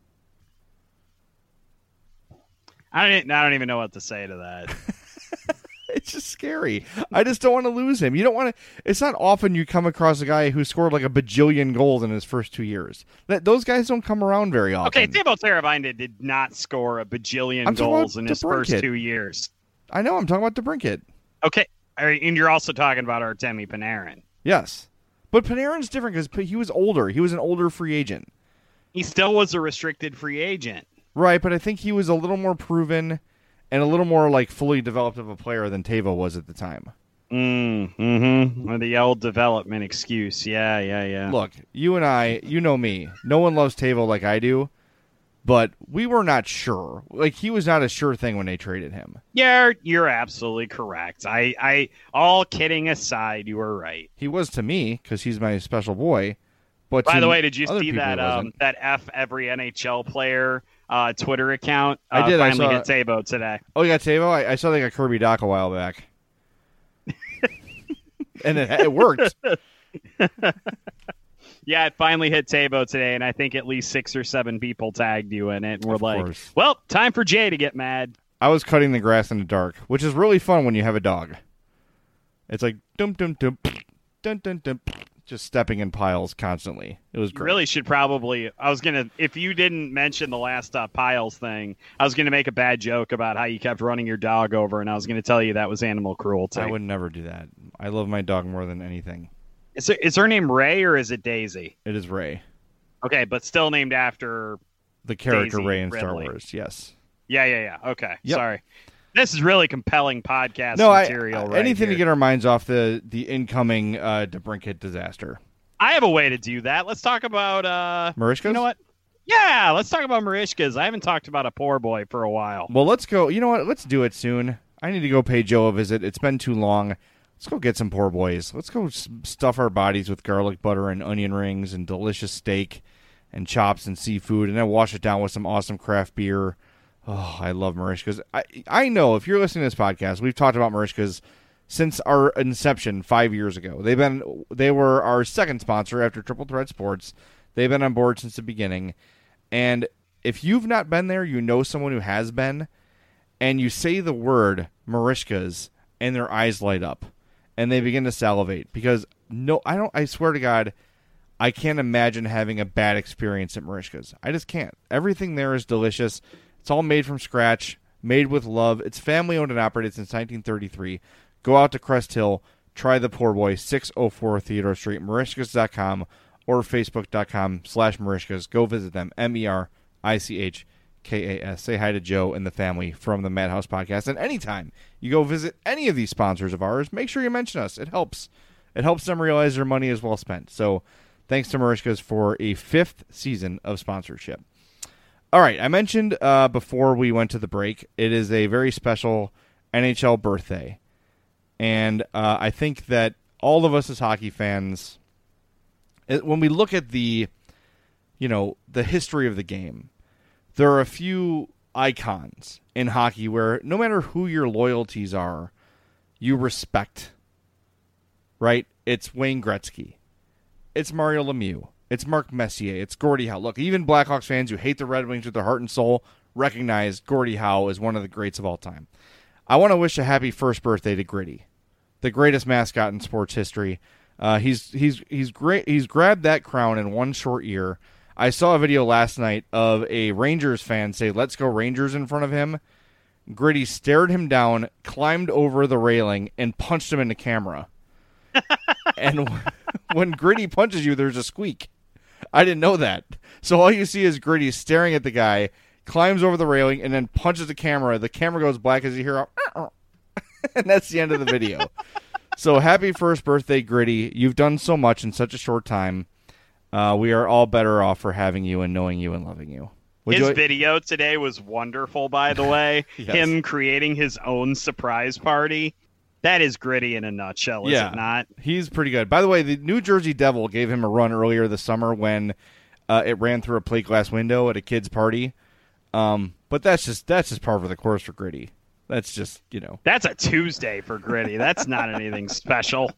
I don't even know what to say to that. It's just scary. I just don't want to lose him. You don't want to. It's not often you come across a guy who scored like a bajillion goals in his first 2 years. Those guys don't come around very often. Okay, Teuvo Teravainen did not score a bajillion goals in his first 2 years. I know. I'm talking about DeBrincat. Okay, and you're also talking about Artemi Panarin. Yes, but Panarin's different because he was older. He was an older free agent. He still was a restricted free agent. Right, but I think he was a little more proven and a little more like fully developed of a player than Teuvo was at the time. Or the old development excuse. Yeah. Look, you and I, you know me. No one loves Teuvo like I do, but we were not sure. Like, he was not a sure thing when they traded him. Yeah, you're absolutely correct. I all kidding aside, you were right. He was to me because he's my special boy. But by the way, did you see that that F every NHL player Twitter account? I did. Finally hit Teuvo today. Oh, you got Teuvo? I saw they got Kirby Dach a while back. And it worked. Yeah, it finally hit Teuvo today, and I think at least 6 or 7 people tagged you in it. And we're like, course. well, time for Jay to get mad. I was cutting the grass in the dark, which is really fun when you have a dog. It's like, dum, dum, dum, dun, dun, dun, just stepping in piles constantly. It was great. You really should probably. If you didn't mention the last piles thing, I was gonna make a bad joke about how you kept running your dog over, and I was gonna tell you that was animal cruelty. I would never do that. I love my dog more than anything. Is her name Ray or is it Daisy? It is Ray. Okay, but still named after the character Daisy Ray in Ridley. Star Wars. Yes. Yeah. Okay, Yep. Sorry. This is really compelling podcast material. Right anything here. to get our minds off the incoming DeBrincat disaster. I have a way to do that. Let's talk about Marishkas? You know what? Yeah, let's talk about Marishkas. I haven't talked about a poor boy for a while. Well, let's go. You know what? Let's do it soon. I need to go pay Joe a visit. It's been too long. Let's go get some poor boys. Let's go stuff our bodies with garlic butter and onion rings and delicious steak and chops and seafood, and then wash it down with some awesome craft beer. Oh, I love Marishkas. I know if you're listening to this podcast, we've talked about Marishkas since our inception 5 years ago. They were our second sponsor after Triple Threat Sports. They've been on board since the beginning. And if you've not been there, you know someone who has been, and you say the word Marishkas and their eyes light up and they begin to salivate because I swear to God, I can't imagine having a bad experience at Marishkas. I just can't. Everything there is delicious. It's all made from scratch, made with love. It's family owned and operated since 1933. Go out to Crest Hill, try the poor boy, 604 Theodore Street, Marishkas.com or Facebook.com/Marishkas. Go visit them, MERICHKAS. Say hi to Joe and the family from the Madhouse Podcast. And anytime you go visit any of these sponsors of ours, make sure you mention us. It helps. It helps them realize their money is well spent. So thanks to Marishkas for a 5th season of sponsorship. All right, I mentioned before we went to the break, it is a very special NHL birthday. And I think that all of us as hockey fans, when we look at the history of the game, there are a few icons in hockey where no matter who your loyalties are, you respect. Right? It's Wayne Gretzky. It's Mario Lemieux. It's Mark Messier. It's Gordie Howe. Look, even Blackhawks fans who hate the Red Wings with their heart and soul recognize Gordie Howe as one of the greats of all time. I want to wish a happy first birthday to Gritty, the greatest mascot in sports history. He's great. He's grabbed that crown in one short year. I saw a video last night of a Rangers fan say, "Let's go Rangers" in front of him. Gritty stared him down, climbed over the railing, and punched him in the camera. And when Gritty punches you, there's a squeak. I didn't know that. So all you see is Gritty staring at the guy, climbs over the railing, and then punches the camera. The camera goes black as you hear a and that's the end of the video. So happy first birthday, Gritty. You've done so much in such a short time. We are all better off for having you and knowing you and loving you. His video today was wonderful, by the way. Yes. Him creating his own surprise party. That is Gritty in a nutshell, is it not? He's pretty good. By the way, the New Jersey Devil gave him a run earlier this summer when it ran through a plate glass window at a kid's party. But that's just par for the course for Gritty. That's just, That's a Tuesday for Gritty. That's not anything special.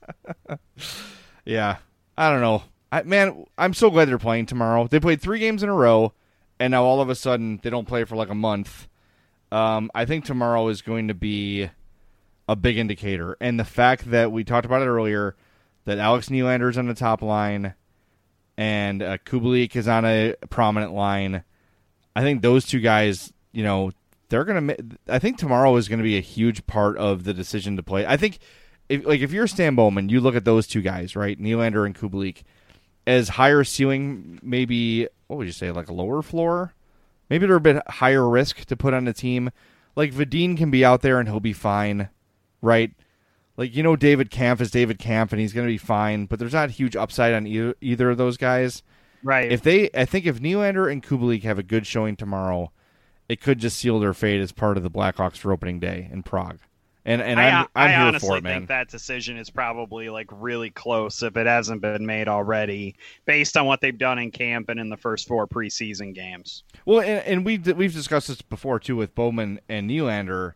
Yeah. I don't know. I'm so glad they're playing tomorrow. They played 3 games in a row, and now all of a sudden they don't play for like a month. I think tomorrow is going to be a big indicator. And the fact that we talked about it earlier, that Alex Nylander's on the top line and Kubalik is on a prominent line, I think those two guys, they're going to – I think tomorrow is going to be a huge part of the decision to play. I think if you're Stan Bowman, you look at those two guys, right, Nylander and Kubalik, as higher ceiling, maybe, what would you say, like a lower floor? Maybe they're a bit higher risk to put on the team. Like Vadin can be out there and he'll be fine, right? Like, David Kampf is David Kampf and he's going to be fine, but there's not huge upside on either of those guys. Right. I think if Nylander and Kubalik have a good showing tomorrow, it could just seal their fate as part of the Blackhawks for opening day in Prague. And I'm I here honestly for it, man. think that decision is probably like really close if it hasn't been made already, based on what they've done in camp and in the first 4 preseason games. Well, and we've discussed this before too with Bowman and Nylander.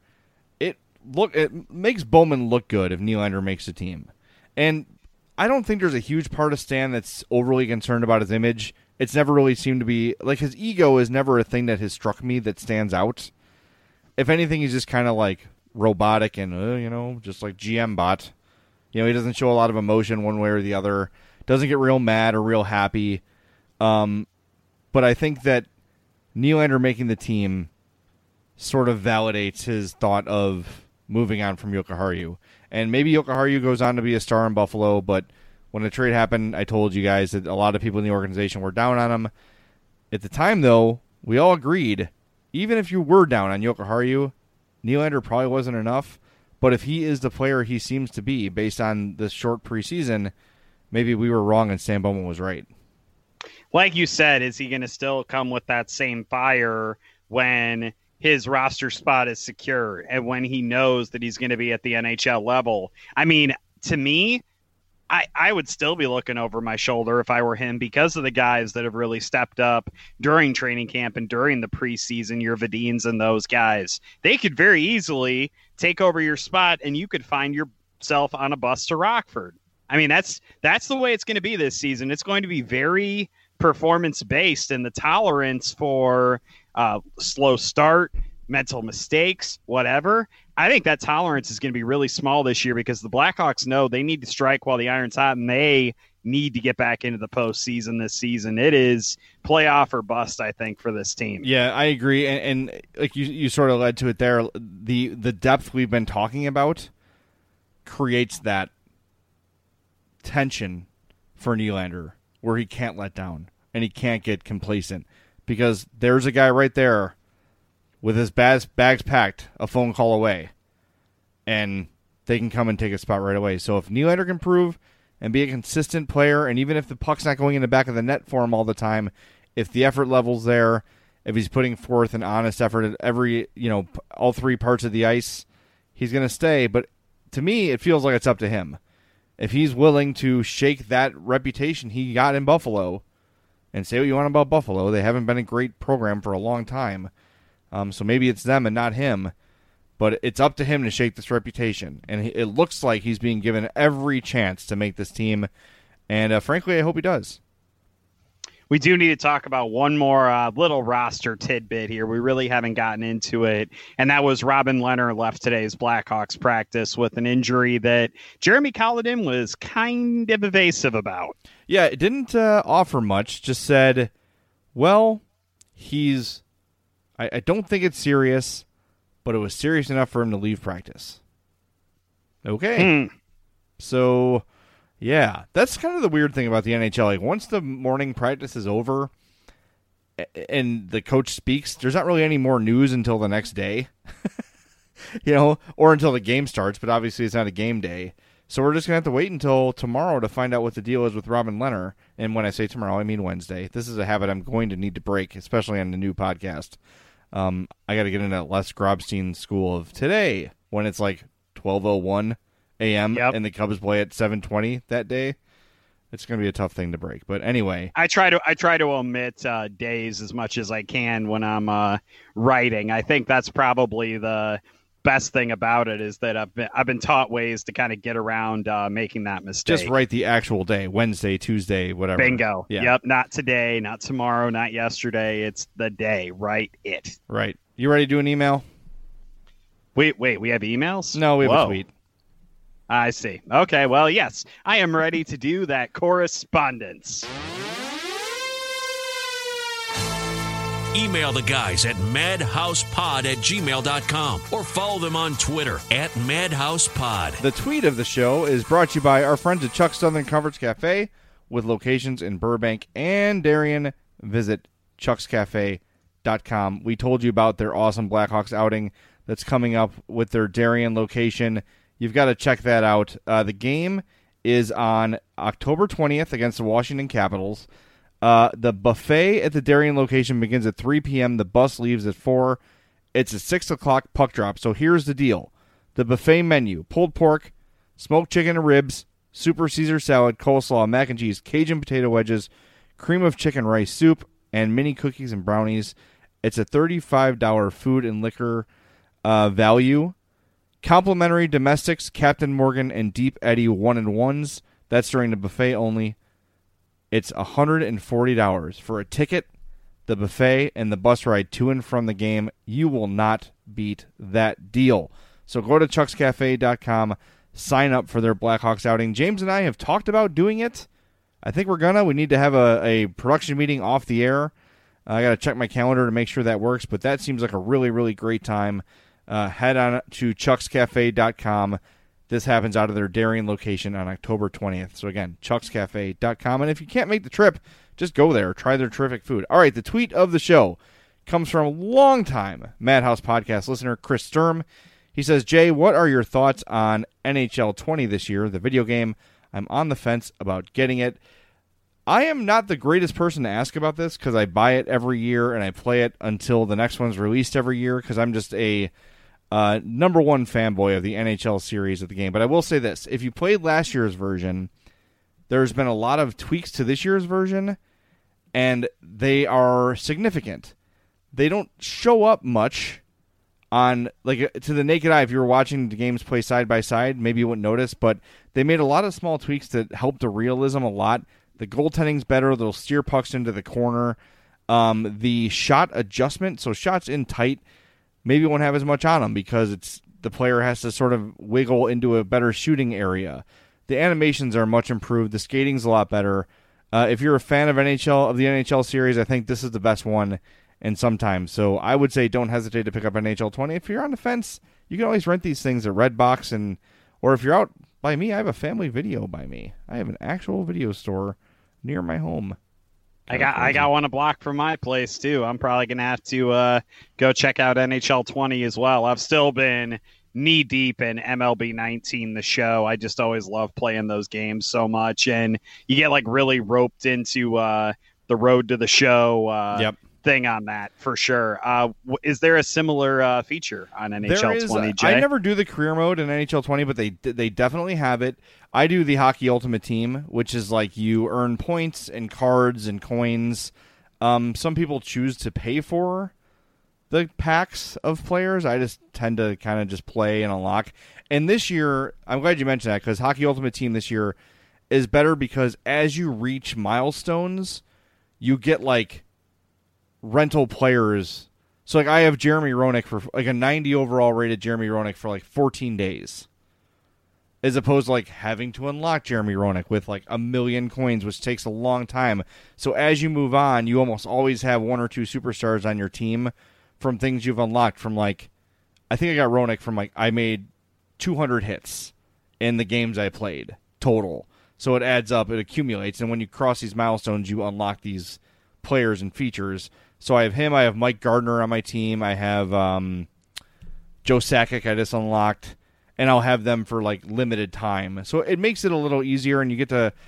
It makes Bowman look good if Nylander makes the team, and I don't think there's a huge part of Stan that's overly concerned about his image. It's never really seemed to be like his ego is never a thing that has struck me that stands out. If anything, he's just kind of like robotic and just like GM bot. He doesn't show a lot of emotion one way or the other. Doesn't get real mad or real happy. But I think that Nylander making the team sort of validates his thought of moving on from Jokiharju. And maybe Jokiharju goes on to be a star in Buffalo, but when the trade happened, I told you guys that a lot of people in the organization were down on him. At the time, though, we all agreed, even if you were down on Jokiharju, Nylander probably wasn't enough. But if he is the player he seems to be based on this short preseason, maybe we were wrong and Stan Bowman was right. Like you said, is he going to still come with that same fire when his roster spot is secure and when he knows that he's going to be at the NHL level? I mean, to me, I would still be looking over my shoulder if I were him because of the guys that have really stepped up during training camp and during the preseason, your Vadins and those guys. They could very easily take over your spot and you could find yourself on a bus to Rockford. I mean, that's the way it's going to be this season. It's going to be very performance-based, and the tolerance for slow start, mental mistakes, whatever, I think that tolerance is going to be really small this year because the Blackhawks know they need to strike while the iron's hot, and they need to get back into the postseason this season. It is playoff or bust, I think, for this team. Yeah, I agree, and like you sort of led to it there. The depth we've been talking about creates that tension for Nylander where he can't let down and he can't get complacent because there's a guy right there with his bags packed, a phone call away, and they can come and take a spot right away. So if Nylander can prove and be a consistent player, and even if the puck's not going in the back of the net for him all the time, if the effort level's there, if he's putting forth an honest effort at every, all 3 parts of the ice, he's going to stay. But to me, it feels like it's up to him. If he's willing to shake that reputation he got in Buffalo, and say what you want about Buffalo, they haven't been a great program for a long time. So maybe it's them and not him, but it's up to him to shake this reputation. And it looks like he's being given every chance to make this team, and frankly, I hope he does. We do need to talk about one more little roster tidbit here. We really haven't gotten into it, and that was Robin Lehner left today's Blackhawks practice with an injury that Jeremy Colliton was kind of evasive about. Yeah, it didn't offer much. Just said, well, I don't think it's serious, but it was serious enough for him to leave practice. Okay. So, yeah, that's kind of the weird thing about the NHL. Like, once the morning practice is over and the coach speaks, there's not really any more news until the next day, or until the game starts, but obviously it's not a game day. So we're just going to have to wait until tomorrow to find out what the deal is with Robin Lehner. And when I say tomorrow, I mean Wednesday. This is a habit I'm going to need to break, especially on the new podcast. I got to get into Les Grobstein school of today when it's like 12:01 a.m. and the Cubs play at 7:20 that day. It's going to be a tough thing to break. But anyway, I try to omit days as much as I can when I'm writing. I think that's probably the best thing about it, is that I've been taught ways to kind of get around making that mistake. Just write the actual day, Wednesday, Tuesday, whatever. Bingo. Yeah. Yep. Not today, not tomorrow, not yesterday. It's the day. Write it. Right. You ready to do an email? Wait. We have emails? No, we have a tweet. I see. Okay. Well, yes, I am ready to do that correspondence. Email the guys at madhousepod@gmail.com or follow them on Twitter @madhousepod. The tweet of the show is brought to you by our friends at Chuck's Southern Comforts Cafe with locations in Burbank and Darien. Visit chuckscafe.com. We told you about their awesome Blackhawks outing that's coming up with their Darien location. You've got to check that out. The game is on October 20th against the Washington Capitals. The buffet at the Darien location begins at 3 p.m. The bus leaves at 4. It's a 6 o'clock puck drop. So here's the deal. The buffet menu: pulled pork, smoked chicken and ribs, super Caesar salad, coleslaw, mac and cheese, Cajun potato wedges, cream of chicken rice soup, and mini cookies and brownies. It's a $35 food and liquor value. Complimentary domestics, Captain Morgan and Deep Eddy 1-in-1s. That's during the buffet only. It's $140 for a ticket, the buffet, and the bus ride to and from the game. You will not beat that deal. So go to chuckscafe.com, sign up for their Blackhawks outing. James and I have talked about doing it. I think we're gonna. We need to have a production meeting off the air. I got to check my calendar to make sure that works, but that seems like a really, really great time. Head on to chuckscafe.com. This happens out of their Darien location on October 20th. So again, chuckscafe.com. And if you can't make the trip, just go there. Try their terrific food. All right, the tweet of the show comes from a longtime Madhouse podcast listener, Chris Sturm. He says, Jay, what are your thoughts on NHL 20 this year, the video game? I'm on the fence about getting it. I am not the greatest person to ask about this because I buy it every year and I play it until the next one's released every year because I'm just a number one fanboy of the NHL series of the game. But I will say this. If you played last year's version, there's been a lot of tweaks to this year's version, and they are significant. They don't show up much on, like, to the naked eye. If you were watching the games play side by side, maybe you wouldn't notice, but they made a lot of small tweaks that help the realism a lot. The goaltending's better. They'll steer pucks into the corner. The shot adjustment, so shots in tight, maybe won't have as much on them because it's the player has to sort of wiggle into a better shooting area. The animations are much improved. The skating's a lot better. If you're a fan of the NHL series, I think this is the best one in some time. So I would say don't hesitate to pick up NHL 20. If you're on the fence, you can always rent these things at Redbox, or if you're out by me, I have a Family Video by me. I have an actual video store near my home. I got one a block from my place too. I'm probably gonna have to go check out NHL 20 as well. I've still been knee deep in MLB 19, the show. I just always love playing those games so much, and you get like really roped into the road to the show thing on that for sure. Is there a similar feature on NHL 20? Jay? I never do the career mode in NHL 20, but they definitely have it. I do the Hockey Ultimate Team, which is like you earn points and cards and coins. Some people choose to pay for the packs of players. I just tend to kind of just play and unlock. And this year, I'm glad you mentioned that because Hockey Ultimate Team this year is better because as you reach milestones, you get like rental players. So like I have Jeremy Roenick for like a 90 overall rated Jeremy Roenick for like 14 days. As opposed to like having to unlock Jeremy Roenick with like 1 million coins, which takes a long time. So as you move on, you almost always have one or two superstars on your team from things you've unlocked from like, I think I got Roenick from like, I made 200 hits in the games I played total. So it adds up, it accumulates. And when you cross these milestones, you unlock these players and features. So I have him, I have Mike Gardner on my team. I have Joe Sakic I just unlocked. And I'll have them for like limited time, so it makes it a little easier, and you get to,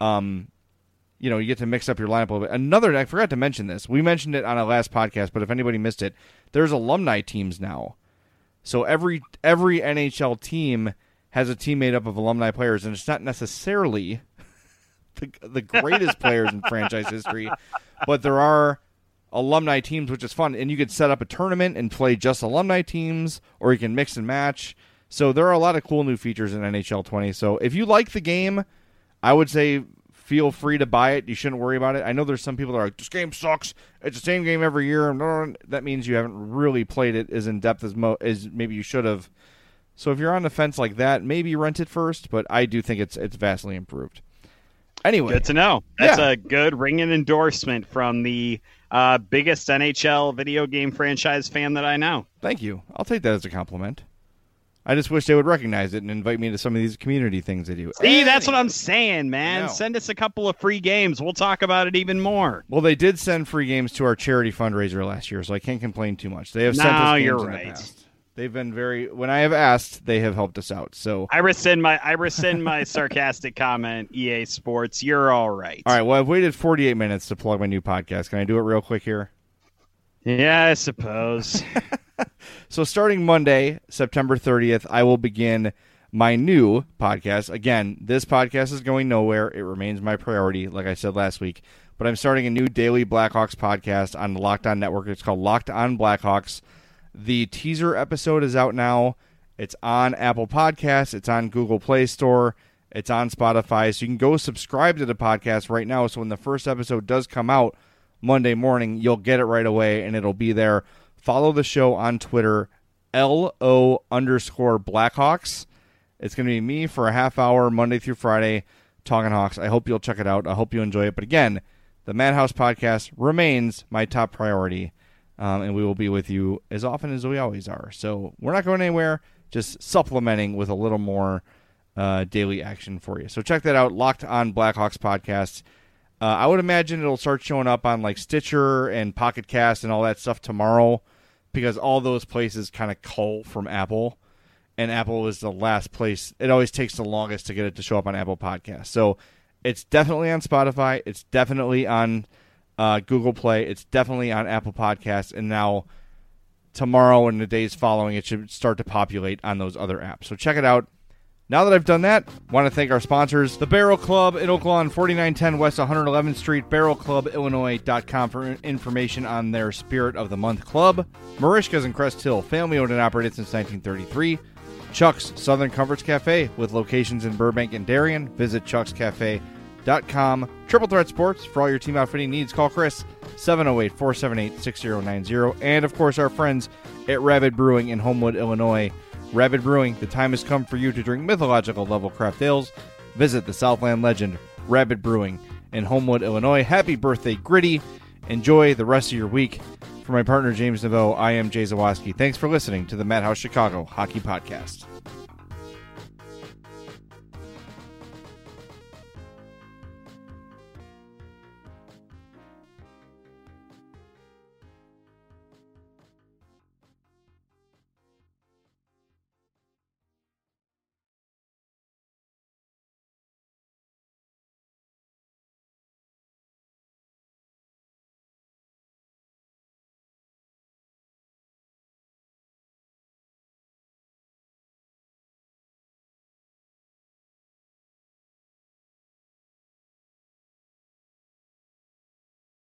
you get to mix up your lineup a little bit. I forgot to mention this. We mentioned it on our last podcast, but if anybody missed it, there's alumni teams now. So every NHL team has a team made up of alumni players, and it's not necessarily the greatest players in franchise history, but there are alumni teams, which is fun. And you could set up a tournament and play just alumni teams, or you can mix and match. So there are a lot of cool new features in NHL 20. So if you like the game, I would say feel free to buy it. You shouldn't worry about it. I know there's some people that are like, this game sucks. It's the same game every year. That means you haven't really played it as in-depth as maybe you should have. So if you're on the fence like that, maybe rent it first, but I do think it's vastly improved. Anyway. Good to know. That's a good ringing endorsement from the biggest NHL video game franchise fan that I know. Thank you. I'll take that as a compliment. I just wish they would recognize it and invite me to some of these community things they do. See, that's what I'm saying, man. Send us a couple of free games. We'll talk about it even more. Well, they did send free games to our charity fundraiser last year, so I can't complain too much. They have sent us games in the past. They've been when I have asked, they have helped us out. So I rescind my sarcastic comment, EA Sports. You're all right. All right, well, I've waited 48 minutes to plug my new podcast. Can I do it real quick here? Yeah, I suppose. So starting Monday, September 30th, I will begin my new podcast. Again, this podcast is going nowhere. It remains my priority, like I said last week. But I'm starting a new daily Blackhawks podcast on the Locked On Network. It's called Locked On Blackhawks. The teaser episode is out now. It's on Apple Podcasts. It's on Google Play Store. It's on Spotify. So you can go subscribe to the podcast right now. So when the first episode does come out Monday morning, you'll get it right away, and it'll be there. Follow the show on Twitter, LO_Blackhawks. It's going to be me for a half hour, Monday through Friday, talking Hawks. I hope you'll check it out. I hope you enjoy it. But again, the Madhouse podcast remains my top priority. And we will be with you as often as we always are. So we're not going anywhere, just supplementing with a little more daily action for you. So check that out, Locked On Blackhawks podcast. I would imagine it'll start showing up on like Stitcher and Pocket Cast and all that stuff tomorrow, because all those places kind of cull from Apple, and Apple is the last place. It always takes the longest to get it to show up on Apple Podcasts. So it's definitely on Spotify. It's definitely on Google Play. It's definitely on Apple Podcasts, and now tomorrow and the days following, it should start to populate on those other apps. So check it out. Now that I've done that, I want to thank our sponsors, the Barrel Club in Oak Lawn, 4910 West 111th Street, barrelclubillinois.com for information on their Spirit of the Month Club. Marishka's in Crest Hill, family-owned and operated since 1933. Chuck's Southern Comforts Cafe with locations in Burbank and Darien. Visit chuckscafe.com. Triple Threat Sports, for all your team outfitting needs, call Chris, 708-478-6090. And, of course, our friends at Rabid Brewing in Homewood, Illinois. Rabid Brewing, the time has come for you to drink mythological level craft ales. Visit the Southland legend, Rabid Brewing in Homewood, Illinois. Happy birthday, Gritty. Enjoy the rest of your week. For my partner, James Naveau, I am Jay Zawaski. Thanks for listening to the Madhouse Chicago Hockey Podcast.